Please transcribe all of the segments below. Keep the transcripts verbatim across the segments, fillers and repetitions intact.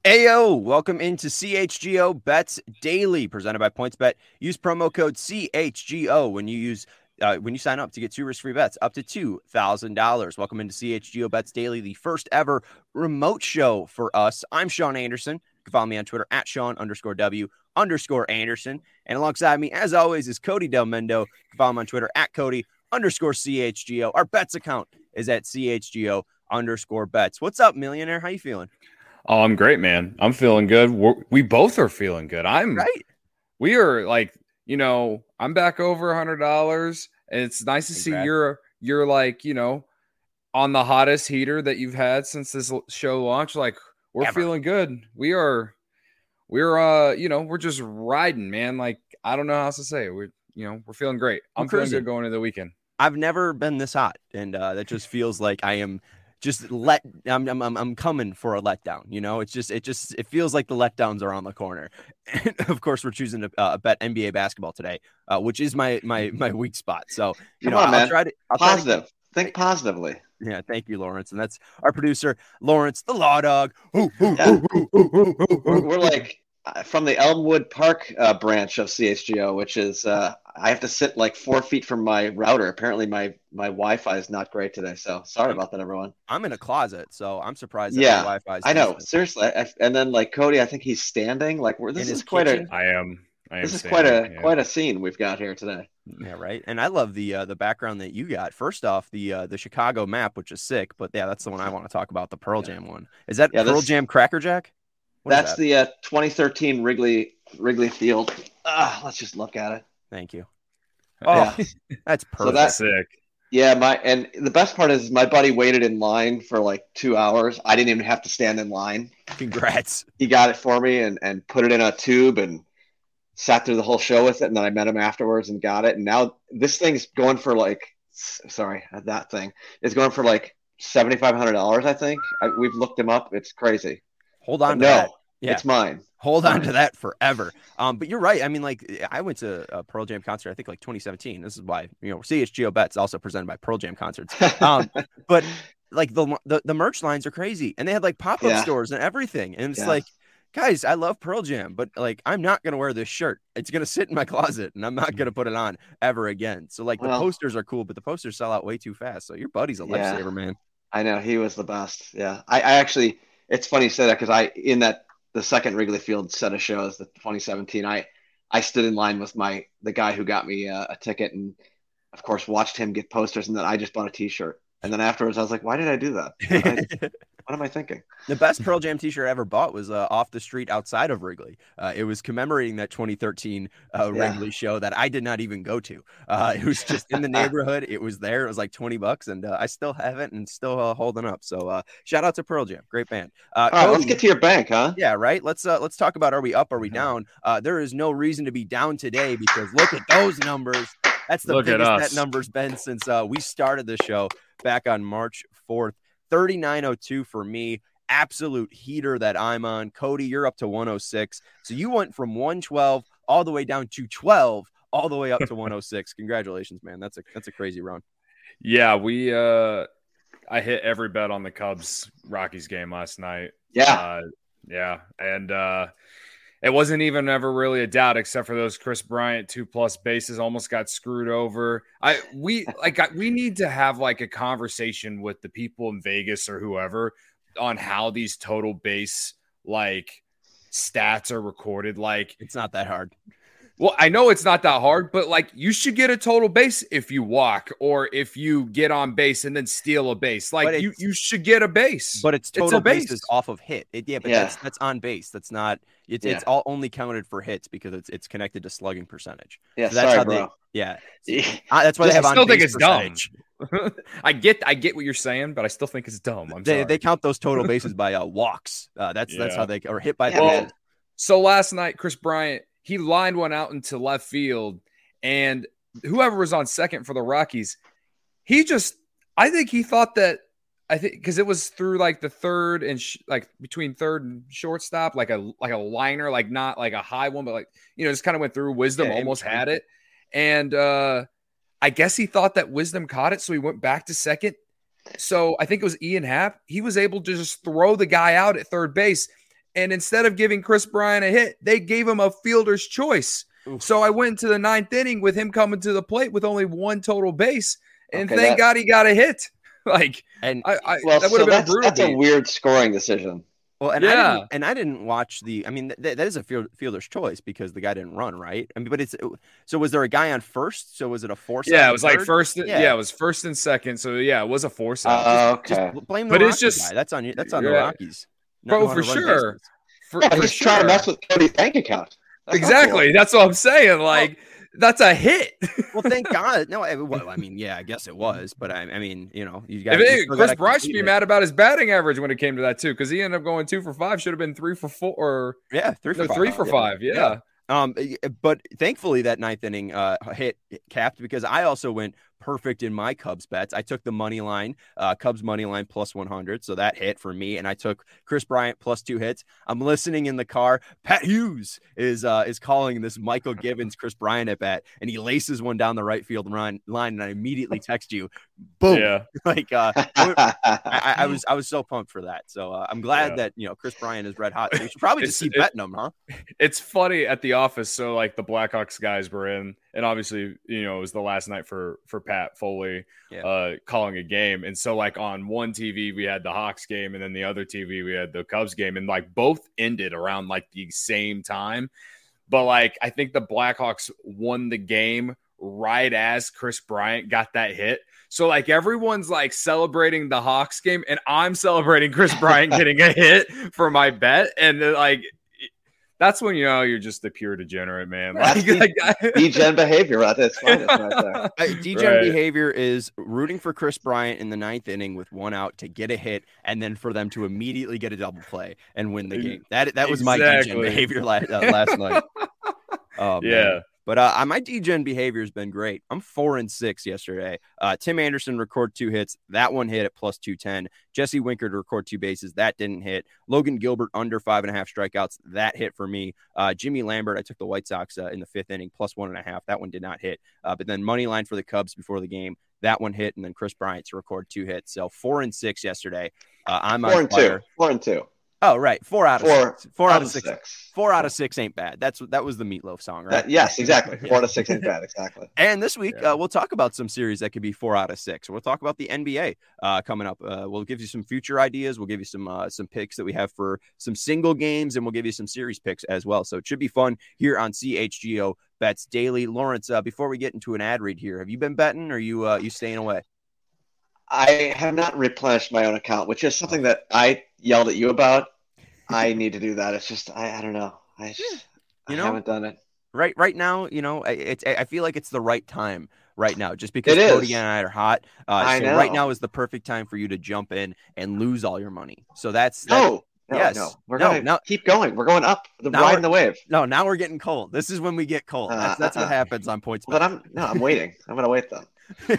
Ayo, welcome into C H G O Bets Daily, presented by PointsBet. Use promo code C H G O when you use uh, when you sign up to get two risk-free bets up to two thousand dollars. Welcome into C H G O Bets Daily, the first ever remote show for us. I'm Sean Anderson. You can follow me on Twitter at Sean underscore W underscore Anderson. And alongside me, as always, is Cody Del Mendo. You can follow him on Twitter at Cody underscore C H G O. Our bets account is at C H G O underscore bets. What's up, millionaire? How you feeling? Oh, I'm great, man. I'm feeling good. We're, we both are feeling good. I'm right. We are like, you know, I'm back over a hundred dollars, and it's nice to Congrats. see you're you're like, you know, on the hottest heater that you've had since this show launched. Like, we're Ever. feeling good. We are, we're, uh, you know, we're just riding, man. Like, I don't know how else to say it. We're, you know, we're feeling great. I'm, I'm feeling good going into the weekend. I've never been this hot, and uh, that just feels like I am. Just let I'm, I'm I'm coming for a letdown. You know, it's just it just it feels like the letdowns are on the corner. And of course, we're choosing to uh, bet N B A basketball today, uh, which is my my my weak spot. So you Come know, on, I'll man. try to I'll positive. Try to... Think positively. Yeah, thank you, Lawrence, and that's our producer, Lawrence, the Law Dog. Ooh, ooh, Yeah. ooh, ooh, ooh, ooh, ooh. We're, we're like uh, from the Elmwood Park uh, branch of C H G O, which is uh, I have to sit like four feet from my router. Apparently, my my Wi-Fi is not great today, so sorry about that, everyone. I'm in a closet, so I'm surprised that yeah, my Wi-Fi is I know, decent. seriously. I, and then like Cody, I think he's standing. Like we're this In is his quite kitchen? a. I am. I am this is standing, quite a yeah. quite a scene we've got here today. Yeah, right. And I love the uh, the background that you got. First off, the uh, the Chicago map, which is sick. But yeah, that's the one I want to talk about. The Pearl Jam one. Is that Yeah, Pearl this- Jam Cracker Jack? What is That's that? the uh, twenty thirteen Wrigley Wrigley Field. Ah, let's just look at it. Thank you. Oh, Yeah. that's So perfect. that's sick. Yeah, my and the best part is my buddy waited in line for like two hours. I didn't even have to stand in line. Congrats. He got it for me and, and put it in a tube and sat through the whole show with it. And then I met him afterwards and got it. And now this thing's going for like, sorry, that thing is going for like seven thousand five hundred dollars, I think. I, we've looked him up. It's crazy. Hold on But to no, that. Yeah. It's mine. Hold It's on mine. to that forever. Um, but you're right. I mean, like, I went to a Pearl Jam concert, I think like twenty seventeen. This is why, you know, C H G O Bets also presented by Pearl Jam Concerts. Um, but like the, the the merch lines are crazy, and they had like pop-up Yeah. stores and everything. And it's Yeah. like, guys, I love Pearl Jam, but like, I'm not going to wear this shirt. It's going to sit in my closet, and I'm not going to put it on ever again. So like Well- the posters are cool, but the posters sell out way too fast. So your buddy's a Yeah. lifesaver, man. I know, he was the best. Yeah. I, I actually, it's funny you say that because I, in that, the second Wrigley Field set of shows, the twenty seventeen, I, I stood in line with my, the guy who got me a, a ticket and of course watched him get posters. And then I just bought a t-shirt. And then afterwards I was like, why did I do that? I, what am I thinking? The best Pearl Jam t-shirt I ever bought was uh, off the street outside of Wrigley. Uh, it was commemorating that twenty thirteen uh, Yeah. Wrigley show that I did not even go to. Uh, it was just in the neighborhood. It was there. It was like twenty bucks, and uh, I still have it and still uh, holding up. So uh, shout out to Pearl Jam. Great band. Uh, All right, let's Cody- get to your bank, huh? Yeah, right. Let's uh, let's talk about, are we up? Are we down? Uh, there is no reason to be down today because look at those numbers. That's the Look at biggest us. that number's been since uh, we started the show back on March fourth. thirty-nine oh two for me. Absolute heater that I'm on. Cody, you're up to one oh six. So you went from one twelve all the way down to twelve, all the way up to one oh six. Congratulations, man. That's a that's a crazy run. Yeah, we. Uh, I hit every bet on the Cubs Rockies game last night. Yeah. Uh, yeah, and uh, it wasn't even ever really a doubt, except for those Chris Bryant two plus bases almost got screwed over. I we like I, we need to have like a conversation with the people in Vegas or whoever on how these total base like stats are recorded. Like, It's not that hard. well, I know it's not that hard, but like you should get a total base if you walk or if you get on base and then steal a base. But Like you, it's- you should get a base. But it's It's a total base. bases off of hit. It, yeah, but Yeah. that's that's on base. That's not. It's it's Yeah. all only counted for hits because it's it's connected to slugging percentage. Yeah, So that's sorry, how bro. they. Yeah, Yeah. Uh, that's why they I have on still think base it's dumb. percentage. I get I get what you're saying, but I still think it's dumb. I'm They sorry. they count those total bases by uh, walks. Uh, that's that's Yeah. how they or hit by Yeah, the Well, bases. so last night, Chris Bryant, he lined one out into left field, and whoever was on second for the Rockies, he just, I think he thought that, I think because it was through like the third and sh- like between third and shortstop, like a like a liner, like not like a high one, but like, you know, just kind of went through. Wisdom Yeah, in almost between. had it, and uh, I guess he thought that Wisdom caught it, so he went back to second. So I think it was Ian Happ. He was able to just throw the guy out at third base. And instead of giving Chris Bryant a hit, they gave him a fielder's choice. Oof. So I went to the ninth inning with him coming to the plate with only one total base. And okay, thank that, God he got a hit. Like, and I, I well, that would so have been that's, brutal. That's a weird scoring decision. Well, and yeah. I didn't, and I didn't watch the. I mean, th- that is a field, fielder's choice because the guy didn't run, right? I mean, but it's so. Was there a guy on first? So was it a force? Yeah, it was third? like first. Yeah. yeah, it was first and second. So yeah, it was a force out. Uh, okay, just blame the but Rockies it's just guy. That's on you. That's on yeah. the Rockies, bro, for sure. For, yeah, for he's sure. trying to mess with Cody's bank account. That's exactly. cool. That's what I'm saying. Like. Well, that's a hit. Well, thank God. No, I, well, I mean, yeah, I guess it was, but I, I mean, you know, you got. Chris Bryant should be mad about his batting average when it came to that too, because he ended up going two for five. Should have been three for four. Or yeah, three for no, five. Three for yeah. five. Yeah. yeah. Um, but thankfully that ninth inning uh hit capped because I also went perfect in my Cubs bets. I took the money line, uh, Cubs money line plus one hundred. So that hit for me. And I took Chris Bryant plus two hits. I'm listening in the car. Pat Hughes is, uh, is calling this Michael Givens, Chris Bryant at bat, and he laces one down the right field line. And I immediately text you, boom. Yeah. like, uh, I, I, I was, I was so pumped for that. So uh, I'm glad yeah. that, you know, Chris Bryant is red hot. So we should probably just keep it, betting him, huh? It's funny at the office. So like the Blackhawks guys were in, and obviously, you know, it was the last night for, for Pat Foley yeah. uh, calling a game. And so like on one T V, we had the Hawks game, and then the other T V, we had the Cubs game, and like both ended around like the same time. But like, I think the Blackhawks won the game right as Chris Bryant got that hit. So like everyone's like celebrating the Hawks game, and I'm celebrating Chris Bryant getting a hit for my bet. And like, that's when you know you're just a pure degenerate, man. Like, like degen behavior right there. Right there. Degen right. behavior is rooting for Chris Bryant in the ninth inning with one out to get a hit, and then for them to immediately get a double play and win the game. That that was exactly. my degen behavior last, uh, last night. Oh, yeah. Man. But uh, my degen behavior has been great. I'm four and six yesterday. Uh, Tim Anderson record two hits. That one hit at plus two ten. Jesse Winker to record two bases. That didn't hit. Logan Gilbert under five and a half strikeouts. That hit for me. Uh, Jimmy Lambert, I took the White Sox uh, in the fifth inning, plus one and a half. That one did not hit. Uh, but then money line for the Cubs before the game. That one hit. And then Chris Bryant to record two hits. So four and six yesterday. Uh, I'm four on and fire. two. Four and two. Oh, right. Four out of four, six. Four out, out of six. six. Four out of six ain't bad. That's That was the Meatloaf song, right? That, yes, exactly. Four yeah. out of six ain't bad. Exactly. And this week, yeah. uh, we'll talk about some series that could be four out of six. We'll talk about the N B A uh, coming up. Uh, we'll give you some future ideas. We'll give you some uh, some picks that we have for some single games, and we'll give you some series picks as well. So it should be fun here on C H G O Bets Daily. Lawrence, uh, before we get into an ad read here, have you been betting or are you, uh, you staying away? I have not replenished my own account, which is something that I yelled at you about. I need to do that. It's just I, I don't know. I just you know, I haven't done it. Right right now, you know, it's I feel like it's the right time right now, just because it Cody is. and I are hot. Uh, I so know. right now is the perfect time for you to jump in and lose all your money. So that's no, that, no, yes, no. We're no, gonna no. keep going. We're going up. The Now riding the wave. No, now we're getting cold. This is when we get cold. That's that's Uh, uh, what happens on Points. But I'm no, I'm waiting. I'm gonna wait then.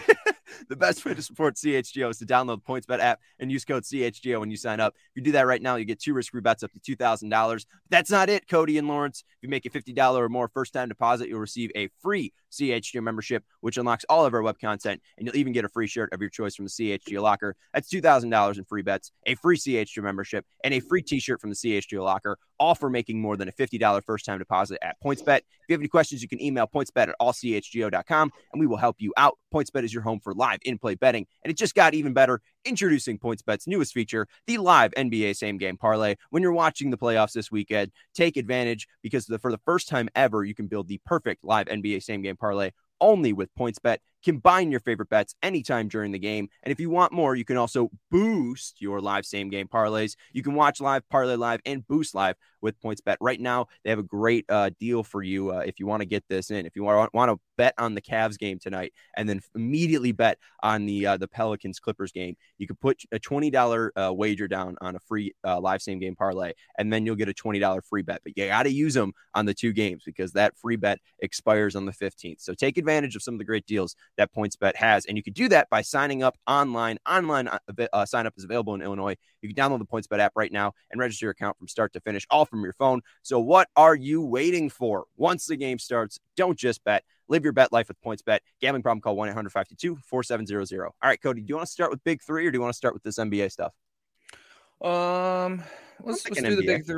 The best way to support C H G O is to download the PointsBet app and use code C H G O when you sign up. If you do that right now, you get two risk-free bets up to two thousand dollars. That's not it, Cody and Lawrence. If you make a fifty dollars or more first-time deposit, you'll receive a free C H G O membership, which unlocks all of our web content, and you'll even get a free shirt of your choice from the C H G O Locker. That's two thousand dollars in free bets, a free C H G O membership, and a free t-shirt from the C H G O Locker, all for making more than a fifty dollars first-time deposit at PointsBet. If you have any questions, you can email pointsbet at all c h g o dot com, and we will help you out. PointsBet is your home for live in-play betting, and it just got even better. Introducing PointsBet's newest feature, the live N B A same-game parlay. When you're watching the playoffs this weekend, take advantage because the, for the first time ever, you can build the perfect live N B A same-game parlay only with PointsBet. Combine your favorite bets anytime during the game. And if you want more, you can also boost your live same game parlays. You can watch live, parlay live, and boost live with PointsBet. Right now, they have a great uh, deal for you uh, if you want to get this in. If you want, want to bet on the Cavs game tonight and then immediately bet on the uh, the Pelicans Clippers game, you could put a twenty dollars uh, wager down on a free uh, live same game parlay, and then you'll get a twenty dollars free bet. But you got to use them on the two games because that free bet expires on the fifteenth. So take advantage of some of the great deals that PointsBet has, and you can do that by signing up online. Online uh, sign up is available in Illinois. You can download the PointsBet app right now and register your account from start to finish, all from your phone. So what are you waiting for? Once the game starts, don't just bet. Live your bet life with PointsBet. Gambling problem? Call one eight hundred five two two four seven zero zero. All right, Cody, do you want to start with big three or do you want to start with this N B A stuff? Um, let's, let's do the big three.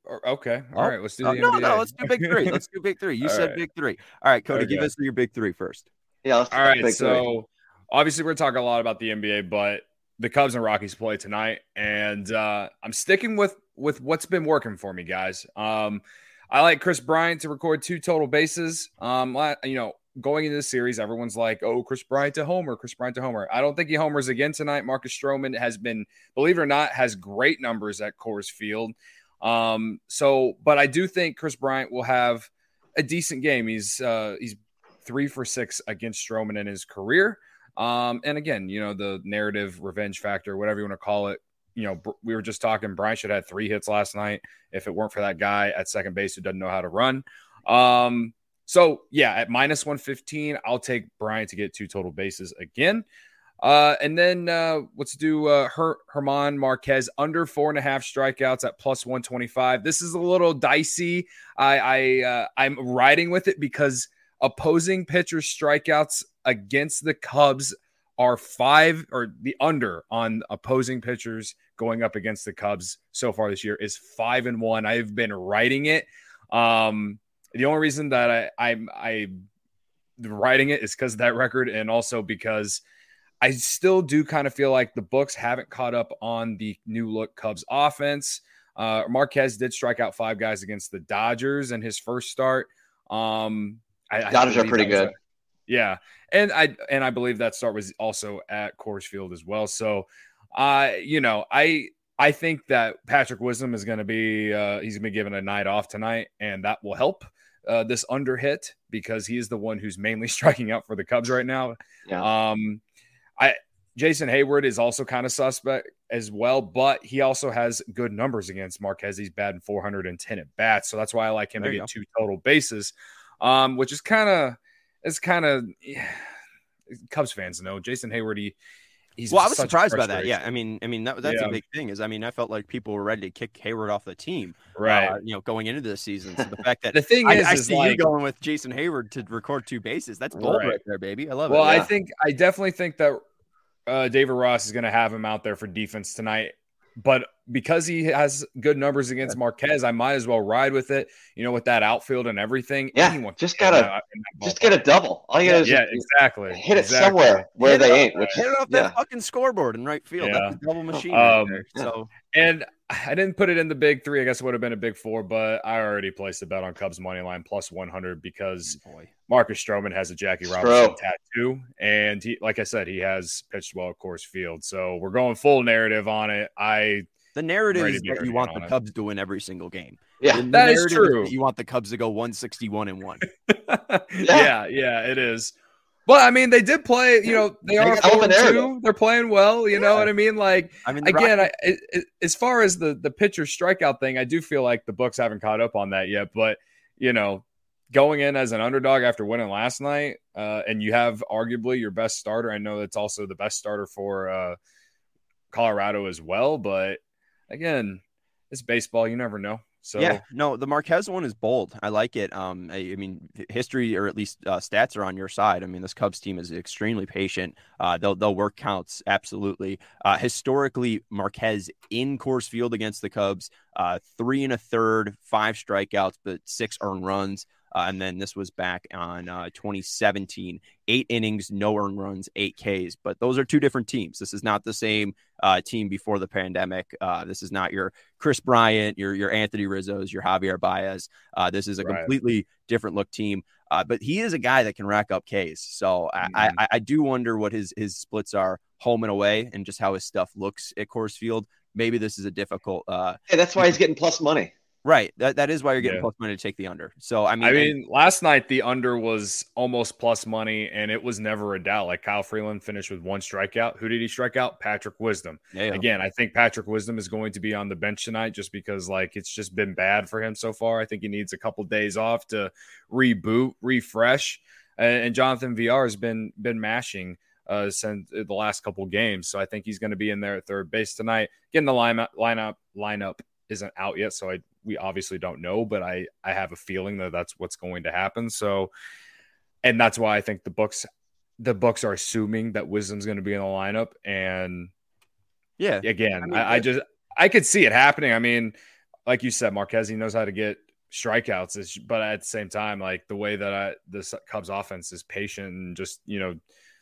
or, okay. All Oh, right. Let's do uh, the no, N B A. no. Let's do big three. Let's do big three. You All said right. big three. All right, Cody, give Okay. us your big three first. Yeah, let's All right. big three. So obviously we're talking a lot about the N B A, but the Cubs and Rockies play tonight, and uh, I'm sticking with with what's been working for me, guys. Um, I like Chris Bryant to record two total bases. Um, you know, going into the series, everyone's like, "Oh, Chris Bryant to homer, Chris Bryant to homer." I don't think he homers again tonight. Marcus Stroman has been, believe it or not, has great numbers at Coors Field. Um, so, but I do think Chris Bryant will have a decent game. He's uh, he's three for six against Stroman in his career. Um, and again, you know, the narrative revenge factor, whatever you want to call it. You know, we were just talking, Bryant should have had three hits last night if it weren't for that guy at second base who doesn't know how to run. Um, so yeah, at minus one fifteen, I'll take Bryant to get two total bases again. Uh, and then uh, let's do uh, Her- Herman Marquez under four and a half strikeouts at plus one twenty-five. This is a little dicey. I, I uh, I'm riding with it because opposing pitchers' strikeouts against the Cubs are five, or the under on opposing pitchers going up against the Cubs so far this year is five and one. I've been writing it. Um, the only reason that I, I'm I writing it is because of that record, and also because I still do kind of feel like the books haven't caught up on the new look Cubs offense. Uh, Marquez did strike out five guys against the Dodgers in his first start. Um, I, Dodgers I are pretty good. A, yeah. And I, and I believe that start was also at Coors Field as well. So, uh, you know, I, I think that Patrick Wisdom is going to be, uh, he's going to be given a night off tonight, and that will help uh, this under hit because he is the one who's mainly striking out for the Cubs right now. Yeah. Um, I, Jason Hayward is also kind of suspect as well, but he also has good numbers against Marquez. He's batting four hundred ten at bats. So that's why I like him There to you get go. two total bases, um, which is kind of, it's kind of yeah, Cubs fans know Jason Hayward. He, he's well, I was such surprised by that. frustration. Yeah, I mean, I mean that that's Yeah. a big thing. Is I mean, I felt like people were ready to kick Hayward off the team, Right. Uh, you know, going into the season. So the fact that The thing I, is, I is see like, you going with Jason Hayward to record two bases. That's bold right, Right. there, baby. I love well, it. I yeah. think I definitely think that uh, David Ross is going to have him out there for defense tonight. But because he has good numbers against Marquez, I might as well ride with it. You know, with that outfield and everything. Yeah, anyone just can gotta- get that- in that Just ballpark. get a double. All you gotta Yeah, do is exactly. hit it exactly. somewhere where Hit it they off- ain't. Which, Hit it off yeah. that fucking scoreboard in right field. Yeah. That's a double machine Um, right there. yeah. So And I didn't put it in the big three. I guess it would have been a big four, but I already placed a bet on Cubs money line plus one hundred because boy. Marcus Stroman has a Jackie Stro. Robinson tattoo. And he, like I said, he has pitched well at Coors Field. So we're going full narrative on it. I, The narrative Ready is to be that ready you want on the it. Cubs to win every single game. Yeah. The- the That is narrative true. that you want the Cubs to go one sixty-one and one. yeah, yeah, it is. But I mean, they did play, you know, they They are got four the and narrative. two. They're playing well. You know Yeah. what I mean? Like, I mean, the again, Rockets- I, it, it, as far as the the pitcher strikeout thing, I do feel like the books haven't caught up on that yet. But you know, going in as an underdog after winning last night, uh, and you have arguably your best starter. I know that's also the best starter for uh, Colorado as well. But again, it's baseball. You never know. So yeah, no, the Marquez one is bold. I like it. Um, I, I mean, history or at least uh, stats are on your side. I mean, this Cubs team is extremely patient. Uh, they'll they'll work counts absolutely. Uh, historically, Marquez in Coors Field against the Cubs, uh, three and a third, five strikeouts, but six earned runs. Uh, and then this was back on uh, twenty seventeen, eight innings, no earned runs, eight Ks. But those are two different teams. This is not the same uh, team before the pandemic. Uh, this is not your Chris Bryant, your your Anthony Rizzo's, your Javier Baez. Uh, this is a Right. completely different look team. Uh, but he is a guy that can rack up Ks. So I, Mhm. I, I do wonder what his his splits are home and away, and just how his stuff looks at Coors Field. Maybe this is a difficult. Uh, Hey, that's why he's getting plus money. right. That that is why you're getting Yeah. plus money to take the under. So I mean, I and- mean, last night the under was almost plus money, and it was never a doubt. Like Kyle Freeland finished with one strikeout. Who did he strike out? Patrick Wisdom. yeah, yeah. Again, I think Patrick Wisdom is going to be on the bench tonight just because, like, it's just been bad for him so far. I think he needs a couple days off to reboot, refresh. And, and Jonathan V R has been been mashing uh, since the last couple games, so I think he's going to be in there at third base tonight. Again, the lineup lineup lineup isn't out yet, so I we obviously don't know, but I I have a feeling that that's what's going to happen. So, and that's why I think the books the books are assuming that Wisdom's going to be in the lineup. And yeah. again, I mean, I, I that- just I could see it happening. I mean, like you said, Marquez, he knows how to get strikeouts, is, but at the same time, like the way that I, this Cubs offense is patient and just, you know,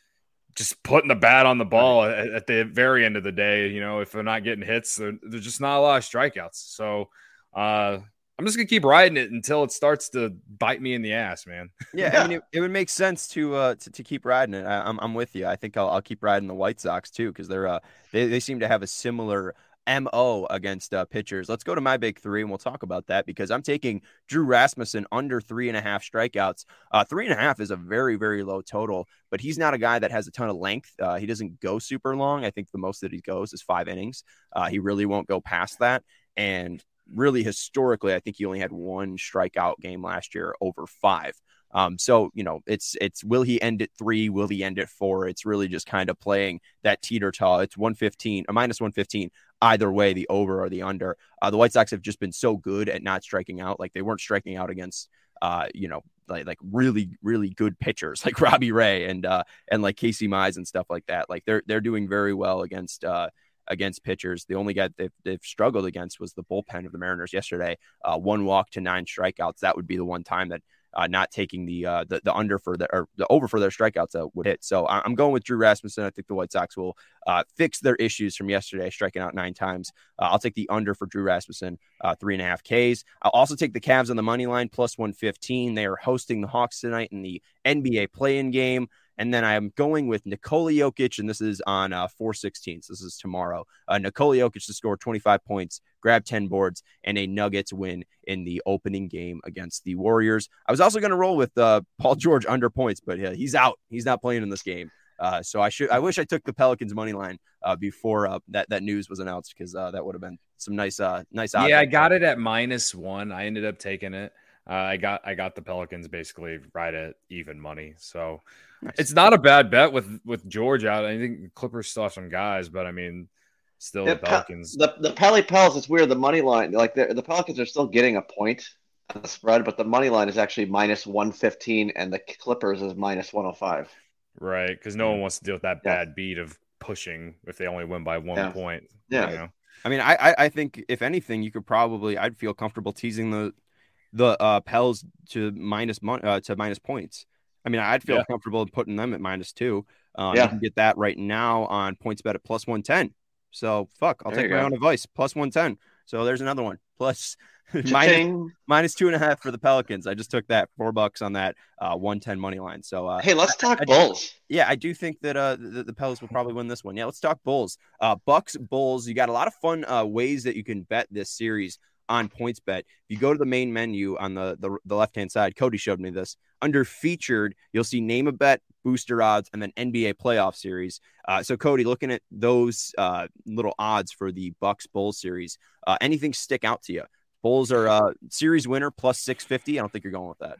just putting the bat on the ball right. at, at the very end of the day. You know, if they're not getting hits, there's just not a lot of strikeouts. So uh, I'm just gonna keep riding it until it starts to bite me in the ass, man. Yeah, I mean, it, it would make sense to uh to, to keep riding it. I, I'm I'm with you. I think I'll I'll keep riding the White Sox too, because they're uh they they seem to have a similar M O against uh, pitchers. Let's go to my big three, and we'll talk about that, because I'm taking Drew Rasmussen under three and a half strikeouts. Uh, three and a half is a very, very low total, but he's not a guy that has a ton of length. Uh, he doesn't go super long. I think the most that he goes is five innings. Uh, he really won't go past that. And really, historically, I think he only had one strikeout game last year over five. Um, so, you know, it's, it's, will he end at three? Will he end at four? It's really just kind of playing that teeter-totter. It's one fifteen, a minus one fifteen, either way, the over or the under. Uh, the White Sox have just been so good at not striking out. Like, they weren't striking out against, uh, you know, like, like really, really good pitchers like Robbie Ray and, uh, and like Casey Mize and stuff like that. Like, they're, they're doing very well against, uh, against pitchers. The only guy they've, they've struggled against was the bullpen of the Mariners yesterday. Uh, one walk to nine strikeouts. That would be the one time that Uh, not taking the, uh, the the under for the or the over for their strikeouts uh, would hit. So I'm going with Drew Rasmussen. I think the White Sox will uh, fix their issues from yesterday, striking out nine times. Uh, I'll take the under for Drew Rasmussen, uh, three and a half Ks. I'll also take the Cavs on the money line, plus one fifteen. They are hosting the Hawks tonight in the N B A play-in game. And then I'm going with Nikola Jokic, and this is on uh, four sixteen. So this is tomorrow. Uh, Nikola Jokic to score twenty-five points, grab ten boards, and a Nuggets win in the opening game against the Warriors. I was also going to roll with uh, Paul George under points, but yeah, he's out. He's not playing in this game. Uh, so I should. I wish I took the Pelicans money line uh, before uh, that that news was announced, because uh, that would have been some nice uh, nice. Yeah, I got it at minus one. I ended up taking it. Uh, I got I got the Pelicans basically right at even money. So. Nice. It's not a bad bet with, with George out. I think the Clippers still have some guys, but I mean, still the, the Pelicans. The the Peli Pels, it's weird. The money line, like the, the Pelicans are still getting a point on the spread, but the money line is actually minus one fifteen, and the Clippers is minus one oh five. Right, because no one wants to deal with that bad yeah. beat of pushing if they only win by one yeah. point. Yeah. You know? I mean, I I think if anything, you could probably I'd feel comfortable teasing the the uh, Pels to minus mon- uh, to minus points. I mean, I'd feel yeah. comfortable putting them at minus two. Um, yeah. You can get that right now on PointsBet at plus one ten. So, fuck, I'll there take my go. own advice. Plus one ten. So there's another one. Plus minus, minus two and a half for the Pelicans. I just took that four bucks on that uh, one ten money line. So, uh, hey, let's talk I, I, Bulls. Yeah, I do think that uh, the, the Pelicans will probably win this one. Yeah, let's talk Bulls. Uh, Bucks, Bulls. You got a lot of fun uh, ways that you can bet this series on PointsBet. If you go to the main menu on the, the, the left-hand side, Cody showed me this. Under featured, you'll see name a bet, booster odds, and then N B A playoff series. Uh, so, Cody, looking at those uh, little odds for the Bucks Bulls series, uh, anything stick out to you? Bulls are uh, series winner plus six fifty. I don't think you're going with that.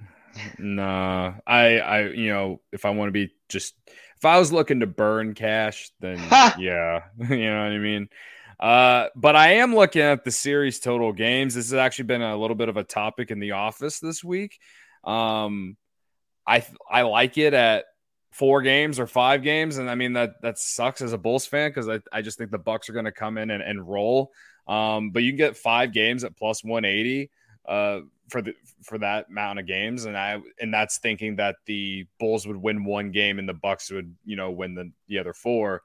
Nah, I, I, you know, if I want to be just, if I was looking to burn cash, then yeah, you know what I mean? Uh, but I am looking at the series total games. This has actually been a little bit of a topic in the office this week. Um, I I like it at four games or five games, and I mean that that sucks as a Bulls fan, because I, I just think the Bucks are going to come in and, and roll. Um, but you can get five games at plus one eighty uh, for the for that amount of games, and I and that's thinking that the Bulls would win one game and the Bucks would, you know, win the, the other four.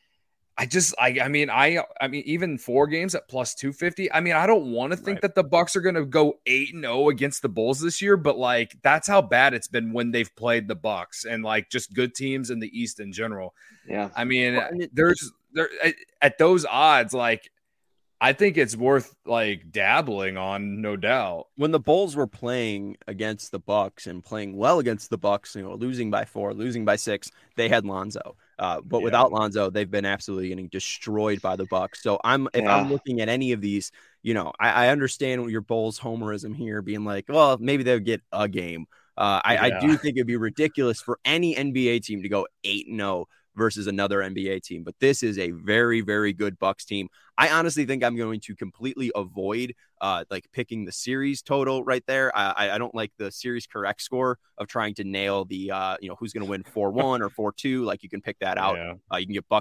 I just, I, I mean, I, I mean, even four games at plus two fifty. I mean, I don't want to think right. that the Bucks are going to go eight and zero against the Bulls this year, but like that's how bad it's been when they've played the Bucks and like just good teams in the East in general. Yeah, I mean, there's there at, at those odds, like I think it's worth like dabbling on, no doubt. When the Bulls were playing against the Bucks and playing well against the Bucks, you know, losing by four, losing by six, they had Lonzo. Uh, but yeah. without Lonzo, they've been absolutely getting destroyed by the Bucks. So I'm if yeah. I'm looking at any of these, you know, I, I understand your Bulls homerism here, being like, well, maybe they'll get a game. Uh, I, yeah. I do think it'd be ridiculous for any N B A team to go eight and zero versus another N B A team. But this is a very, very good Bucks team. I honestly think I'm going to completely avoid uh, like picking the series total right there. I, I don't like the series correct score of trying to nail the, uh, you know, who's going to win four one or four two. Like you can pick that out. Yeah. Uh, you can get Bucks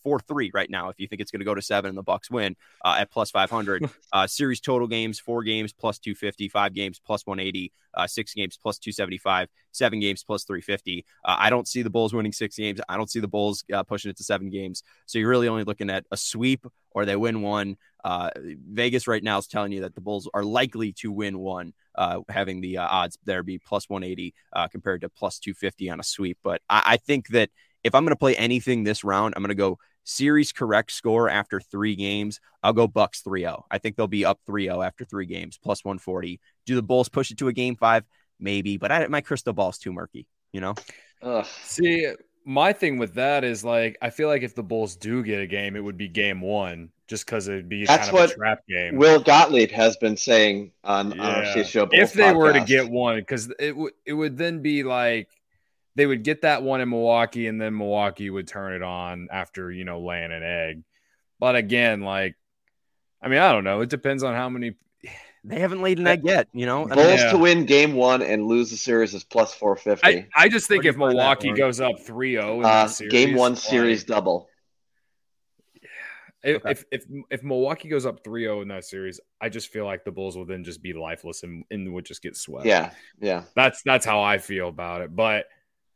four three right now. If you think it's going to go to seven and the Bucks win uh, at plus five hundred, uh, series total games, four games plus two fifty, five games plus one eighty, uh, six games plus two seventy-five, seven games plus three fifty. Uh, I don't see the Bulls winning six games. I don't see the Bulls uh, pushing it to seven games. So you're really only looking at a sweep or they win one. Uh, Vegas right now is telling you that the Bulls are likely to win one, uh, having the uh, odds there be plus one eighty uh, compared to plus two fifty on a sweep. But I, I think that if I'm going to play anything this round, I'm going to go series correct score after three games. I'll go Bucks three oh. I think they'll be up three oh after three games, plus one forty. Do the Bulls push it to a game five? Maybe, but I, my crystal ball's too murky, you know? Ugh. See, my thing with that is like, I feel like if the Bulls do get a game, it would be game one, just because it'd be That's kind of what a trap game. Will Gottlieb has been saying on, yeah. on our C H G O Bulls if they podcast. were to get one, because it would it would then be like they would get that one in Milwaukee, and then Milwaukee would turn it on after, you know, laying an egg. But again, like, I mean, I don't know. It depends on how many. They haven't laid an egg yet, you know. Bulls yeah. to win game one and lose the series is plus four fifty. I, I just think if Milwaukee that goes up three oh in uh, that series, game one like, series double. If, Okay. if if if Milwaukee goes up three oh in that series, I just feel like the Bulls will then just be lifeless and, and would just get swept. Yeah, yeah. That's that's how I feel about it. But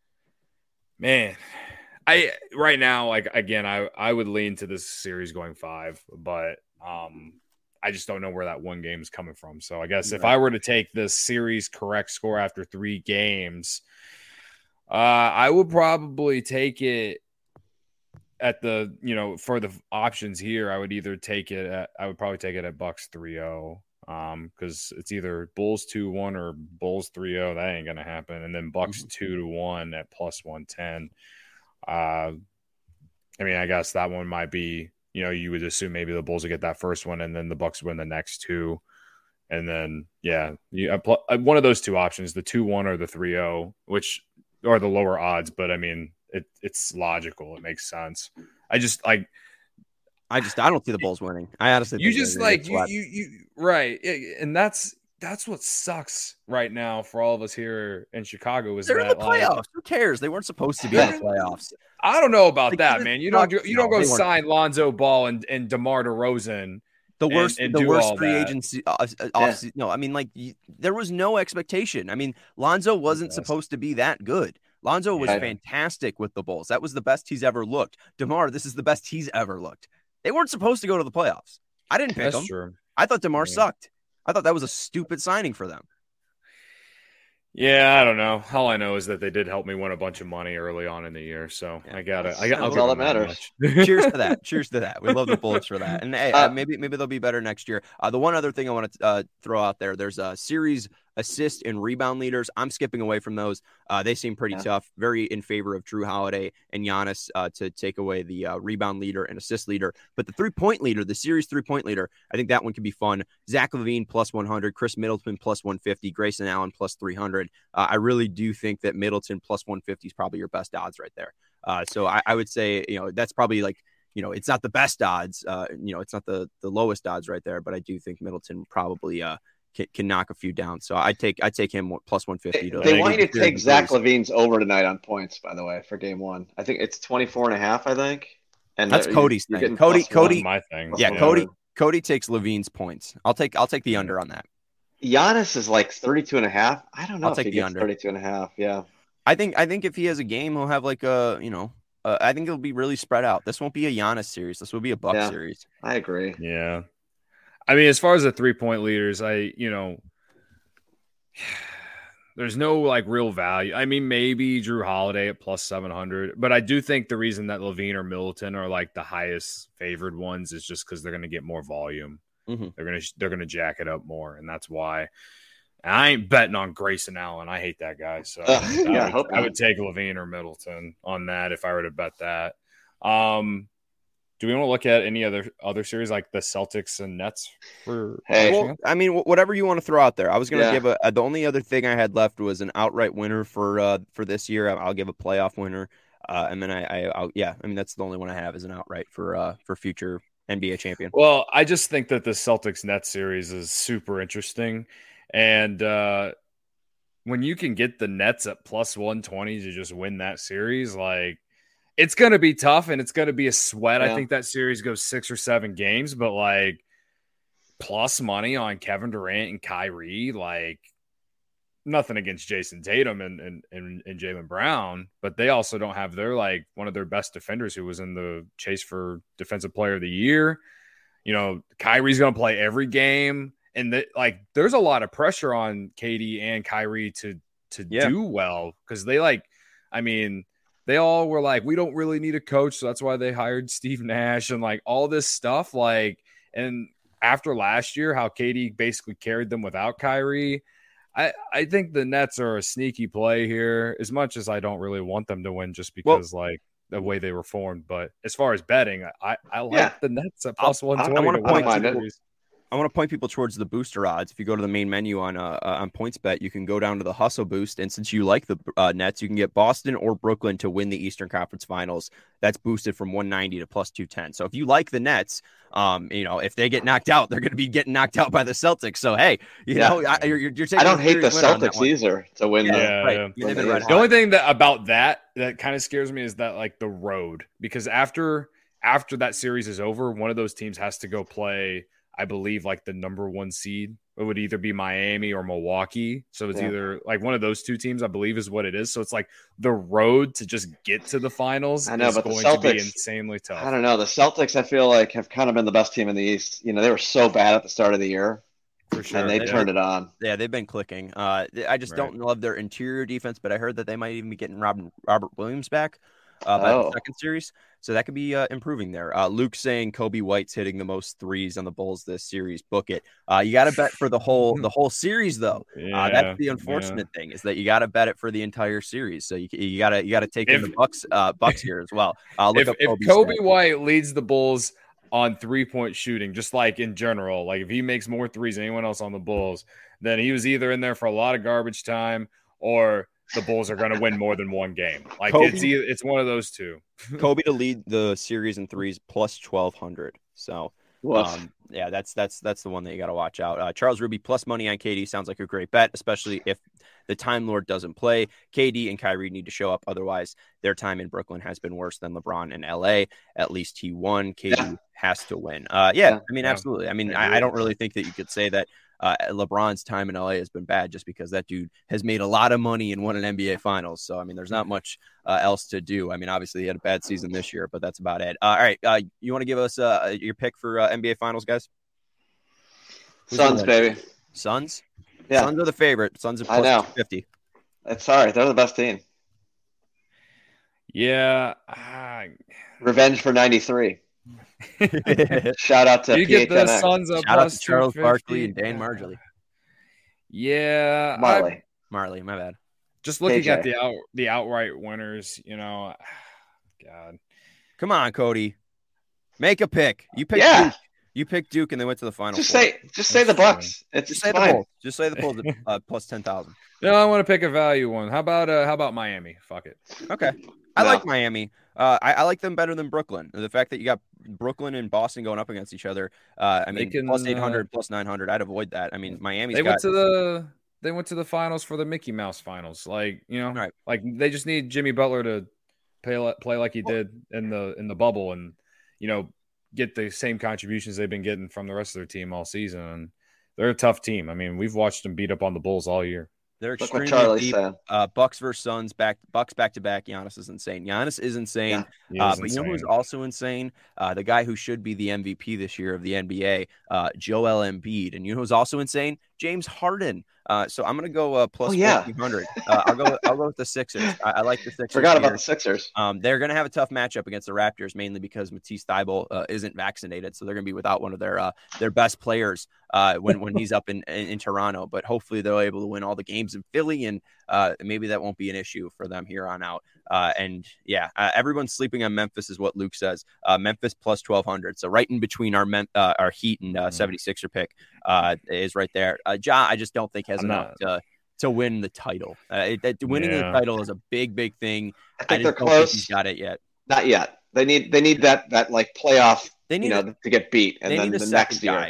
man, I right now, like again, I I would lean to this series going five, but um, I just don't know where that one game is coming from. So I guess if I were to take the series correct score after three games, uh, I would probably take it at the, you know, for the options here. I would either take it at, I would probably take it at Bucks three oh. Um, because it's either Bulls two one or Bulls three oh. That ain't gonna happen. And then Bucks Mm-hmm. two to one at plus one ten. Uh, I mean, I guess that one might be, you know, you would assume maybe the Bulls would get that first one and then the Bucks win the next two. And then, yeah, you, uh, one of those two options, the two one or the three oh, which are the lower odds. But I mean, it it's logical. It makes sense. I just like, I just I don't see the Bulls winning. I honestly you think just they're gonna like get you, swept. you you right, and that's that's what sucks right now for all of us here in Chicago. Is They're that in the playoffs. like, Who cares? They weren't supposed to be in the playoffs. I don't know about Like, that, this man. You don't sucks. you don't No, go they weren't. sign Lonzo Ball and and DeMar DeRozan. The and- worst, and the do worst all free that. agency. Uh, uh, off, No, I mean, like you, there was no expectation. I mean, Lonzo wasn't Yes. supposed to be that good. Lonzo was Yeah. fantastic with the Bulls. That was the best he's ever looked. DeMar, this is the best he's ever looked. They weren't supposed to go to the playoffs. I didn't pick That's them. true. I thought DeMar Yeah. sucked. I thought that was a stupid signing for them. Yeah, I don't know. All I know is that they did help me win a bunch of money early on in the year, so Yeah. I got it. That's- I got. that's all that matters. Cheers to that. Cheers to that. We love the Bullets for that. And hey, Uh, uh, maybe maybe they'll be better next year. Uh, the one other thing I want to uh, throw out there, there's a series assist and rebound leaders. I'm skipping away from those. Uh, they seem pretty Yeah. tough. Very in favor of Drew Holiday and Giannis uh, to take away the uh, rebound leader and assist leader. But the three-point leader, the series three-point leader, I think that one could be fun. Zach LaVine plus one hundred, Chris Middleton plus one fifty, Grayson Allen plus three hundred. Uh, I really do think that Middleton plus one fifty is probably your best odds right there. Uh, so I, I would say, you know, that's probably like, you know, it's not the best odds. Uh, you know, it's not the the lowest odds right there, but I do think Middleton probably uh, can, can knock a few down. So I take I take him plus one fifty. They, To they want you to clear take the Zach series. Levine's over tonight on points, by the way, for game one. I think it's twenty-four and a half, I think. And That's they're- Cody's you're thing. getting Cody- plus one. Cody- my thing. Yeah, Yeah. Cody Cody takes Levine's points. I'll take I'll take the under on that. Giannis is like thirty-two and a half. I don't know I'll if take he the gets under. thirty-two and a half. Yeah. I think I think if he has a game, he'll have like a you know. Uh, I think it'll be really spread out. This won't be a Giannis series. This will be a Bucks Yeah. series. I agree. Yeah. I mean, as far as the three point leaders, I, you know, there's no like real value. I mean, maybe Drew Holiday at plus seven hundred, but I do think the reason that Levine or Middleton are like the highest favored ones is just because they're going to get more volume. Mhm. They're going to, they're going to jack it up more. And that's why. And I ain't betting on Grayson Allen. I hate that guy. So Uh, I, yeah, I would, hope I not. would take Levine or Middleton on that if I were to bet that. Um, do we want to look at any other other series like the Celtics and Nets for? Hey. Well, I mean, wh- whatever you want to throw out there. I was going to Yeah. give a, a. The only other thing I had left was an outright winner for uh for this year. I'll give a playoff winner, uh, and then I, I I'll, yeah. I mean, that's the only one I have is an outright for uh for future N B A champion. Well, I just think that the Celtics Nets series is super interesting, and uh, when you can get the Nets at plus one twenty to just win that series, like it's going to be tough and it's going to be a sweat. Yeah. I think that series goes six or seven games, but like plus money on Kevin Durant and Kyrie, like nothing against Jason Tatum and, and, and, and Jaylen Brown, but they also don't have their, like one of their best defenders who was in the chase for defensive player of the year. You know, Kyrie's going to play every game. And the, like, there's a lot of pressure on K D and Kyrie to, to Yeah. do well. Cause they like, I mean, they all were like, we don't really need a coach. So that's why they hired Steve Nash and like all this stuff. Like, and after last year, how K D basically carried them without Kyrie, I, I think the Nets are a sneaky play here, as much as I don't really want them to win just because well, like the way they were formed. But as far as betting, I, I like Yeah. the Nets at plus one twenty. I want to point mind people, it. I want to point people towards the booster odds. If you go to the main menu on uh, uh, on PointsBet, you can go down to the Hustle Boost, and since you like the uh, Nets, you can get Boston or Brooklyn to win the Eastern Conference Finals. That's boosted from one ninety to plus two ten. So if you like the Nets, um, you know if they get knocked out, they're going to be getting knocked out by the Celtics. So hey, you Yeah. know I, you're, you're taking I don't a hate the serious win on that Celtics one. either to win. Yeah, the, Yeah, right. yeah. I mean, they've been red The hot. only thing that about that that kind of scares me is that like the road, because after after that series is over, one of those teams has to go play, I believe, like the number one seed. It would either be Miami or Milwaukee. So it's Yeah. either like one of those two teams, I believe, is what it is. So it's like the road to just get to the finals I know, is but the going to be Celtics- insanely tough. I don't know. The Celtics, I feel like, have kind of been the best team in the East. You know, they were so bad at the start of the year, For sure. and they Yeah. turned it on. Yeah, they've been clicking. Uh, I just Right. don't love their interior defense, but I heard that they might even be getting Robin, Robert Williams back uh, by Oh. the second series, so that could be uh, improving there. Uh, Luke saying Kobe White's hitting the most threes on the Bulls this series. Book it. Uh, you got to bet for the whole the whole series though. Yeah, Uh, that's the yeah. unfortunate thing is that you got to bet it for the entire series. So you you got to you got to take in If- the Bucks uh, Bucks here as well. Uh, look If, up if Kobe's Kobe stats. White leads the Bulls on three-point shooting, just like in general, like if he makes more threes than anyone else on the Bulls, then he was either in there for a lot of garbage time or the Bulls are going to win more than one game. Like Kobe- it's either, it's one of those two. Kobe to lead the series in threes plus twelve hundred. So. Woof. Um, yeah, that's that's that's the one that you got to watch out. Uh, Charles Ruby plus money on K D sounds like a great bet, especially if the Time Lord doesn't play. K D and Kyrie need to show up, otherwise their time in Brooklyn has been worse than LeBron in L A. At least he won. K D Yeah. has to win. Uh, yeah, Yeah. I mean, Yeah. absolutely. I mean, I I, agree. I don't really think that you could say that uh, LeBron's time in L A has been bad just because that dude has made a lot of money and won an N B A Finals. So I mean, there's not much uh, else to do. I mean, obviously he had a bad season this year, but that's about it. Uh, all right, uh, you want to give us uh, your pick for uh, N B A Finals, guys? Who's Suns, gonna win? baby. Suns? Yeah, Suns are the favorite. Suns are I know. plus fifty. it's sorry. They're the best team. Yeah. ah, Revenge for ninety-three. Shout out to you get the P H N X. Suns up Shout out plus to Charles two fifty. Barkley and Dan Marjorie. Yeah. I- Marley. Marley, my bad. just looking K J. at the out the outright winners, you know, God. Come on, Cody. Make a pick. You picked Yeah. Duke. You picked Duke and they went to the final. Just four. say, just say the Bucks. It's Just say the fine. Bulls. Just say the Bulls at uh, plus ten thousand. No, I want to pick a value one. How about uh how about Miami? Fuck it. Okay. I No. like Miami. Uh, I, I like them better than Brooklyn. The fact that you got Brooklyn and Boston going up against each other. Uh, I They mean, can, plus uh, eight hundred, plus nine hundred. I'd avoid that. I mean, Miami's They got went to the they went to the finals for the Mickey Mouse finals. Like, you know, Right. like they just need Jimmy Butler to play li- play like he did in the in the bubble and, you know, get the same contributions they've been getting from the rest of their team all season. And they're a tough team. I mean, we've watched them beat up on the Bulls all year. They're Look extremely what Charlie deep. said. Uh, Bucks versus Suns back. Bucks back to back. Giannis is insane. Giannis is insane. Yeah. He Uh, is but you know who's insane. also insane? Uh, the guy who should be the M V P this year of the N B A, uh, Joel Embiid. And you know who's also insane? James Harden. Uh, so I'm gonna go uh, plus Oh, yeah. fourteen hundred. Uh, I'll go. I'll go with the Sixers. I, I like the Sixers. Forgot about here. the Sixers. Um, they're going to have a tough matchup against the Raptors, mainly because Matisse Thybulle uh, isn't vaccinated, so they're going to be without one of their uh, their best players uh, when when he's up in, in in Toronto. But hopefully they're able to win all the games in Philly, and uh, maybe that won't be an issue for them here on out. Uh, and yeah, uh, everyone's sleeping on Memphis, is what Luke says. Uh, Memphis plus twelve hundred, so right in between our Mem- uh, our Heat and uh, Mhm. seventy-sixer pick uh, is right there. Uh, Ja, I just don't think has I'm enough not- to to win the title. Uh, it, that, winning Yeah. the title is a big, big thing. I I think they're just don't think close. he's got it yet. Not yet. They need they need that that like playoff, They need you know, a, to get beat, and they then need a the second next year. guy.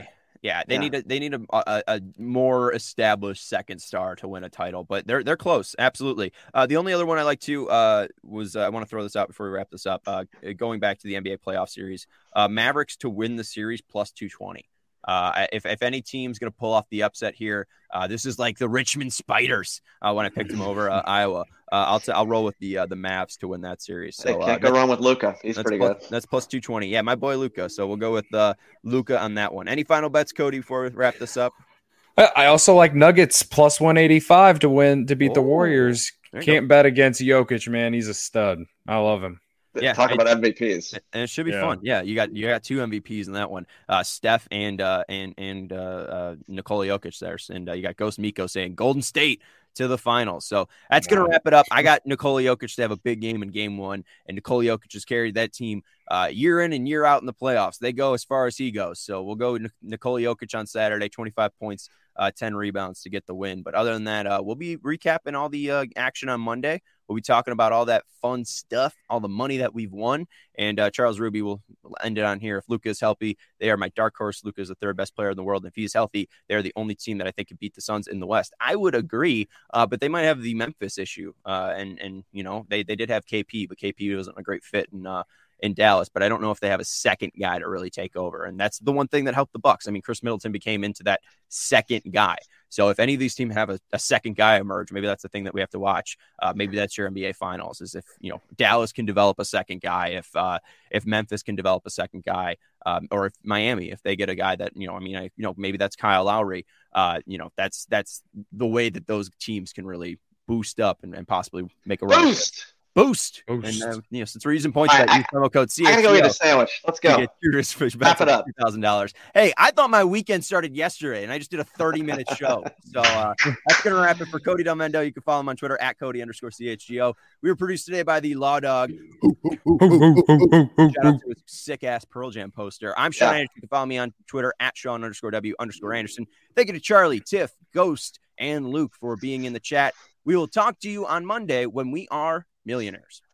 Yeah, they Yeah. need a they need a, a, a more established second star to win a title, but they're they're close, absolutely. Uh, the only other one I like to uh, was uh, I want to throw this out before we wrap this up. Uh, going back to the N B A playoff series, uh, Mavericks to win the series plus two twenty. Uh, if if any team's going to pull off the upset here, uh, this is like the Richmond Spiders uh, when I picked them over uh, Iowa. Uh, I'll t- I'll roll with the uh, the Mavs to win that series. So Hey, can't uh, go wrong with Luka. He's that's pretty plus, good. That's plus two twenty. Yeah, my boy Luka. So we'll go with uh, Luka on that one. Any final bets, Cody, before we wrap this up? I also like Nuggets plus one eighty-five to win to beat Oh, the Warriors. Can't bet against Jokic, man. He's a stud. I love him. Yeah, Talk I, about M V Ps. And it should be Yeah. fun. Yeah, you got you got two M V Ps in that one. Uh, Steph and uh, and and uh, uh, Nikola Jokic there, and uh, you got Ghost Miko saying Golden State to the finals. So that's gonna wrap it up. I got Nikola Jokic to have a big game in Game One, and Nikola Jokic has carried that team uh, year in and year out in the playoffs. They go as far as he goes. So we'll go with Nikola Jokic on Saturday, twenty-five points, uh, ten rebounds to get the win. But other than that, uh, we'll be recapping all the uh, action on Monday. We'll be talking about all that fun stuff, all the money that we've won. And uh, Charles Ruby will end it on here. If Luka is healthy, they are my dark horse. Luka is the third best player in the world. And if he's healthy, they're the only team that I think could beat the Suns in the West. I would agree, uh, but they might have the Memphis issue. Uh, and, and you know, they, they did have K P, but K P wasn't a great fit in, uh, in Dallas. But I don't know if they have a second guy to really take over. And that's the one thing that helped the Bucks. I mean, Chris Middleton became into that second guy. So if any of these teams have a, a second guy emerge, maybe that's the thing that we have to watch. Uh, maybe that's your N B A Finals, is if, you know, Dallas can develop a second guy, if uh, if Memphis can develop a second guy, um, or if Miami, if they get a guy that, you know, I mean, I, you know, maybe that's Kyle Lowry. Uh, you know, that's that's the way that those teams can really boost up and, and possibly make a run. Boost. Boost. Boost. And, uh, you know, since we're using points, All that right, use promo code C I H G O. gotta go eat a sandwich. Let's go. Get yours for Wrap it up. two thousand dollars. Hey, I thought my weekend started yesterday, and I just did a thirty-minute show. So uh, that's going to wrap it for Cody Delmendo. You can follow him on Twitter at Cody underscore C H G O. We were produced today by the Law Dog. Shout out to his sick-ass Pearl Jam poster. I'm Sean Yeah. Anderson. You can follow me on Twitter at Sean underscore W underscore Anderson. Thank you to Charlie, Tiff, Ghost, and Luke for being in the chat. We will talk to you on Monday when we are millionaires.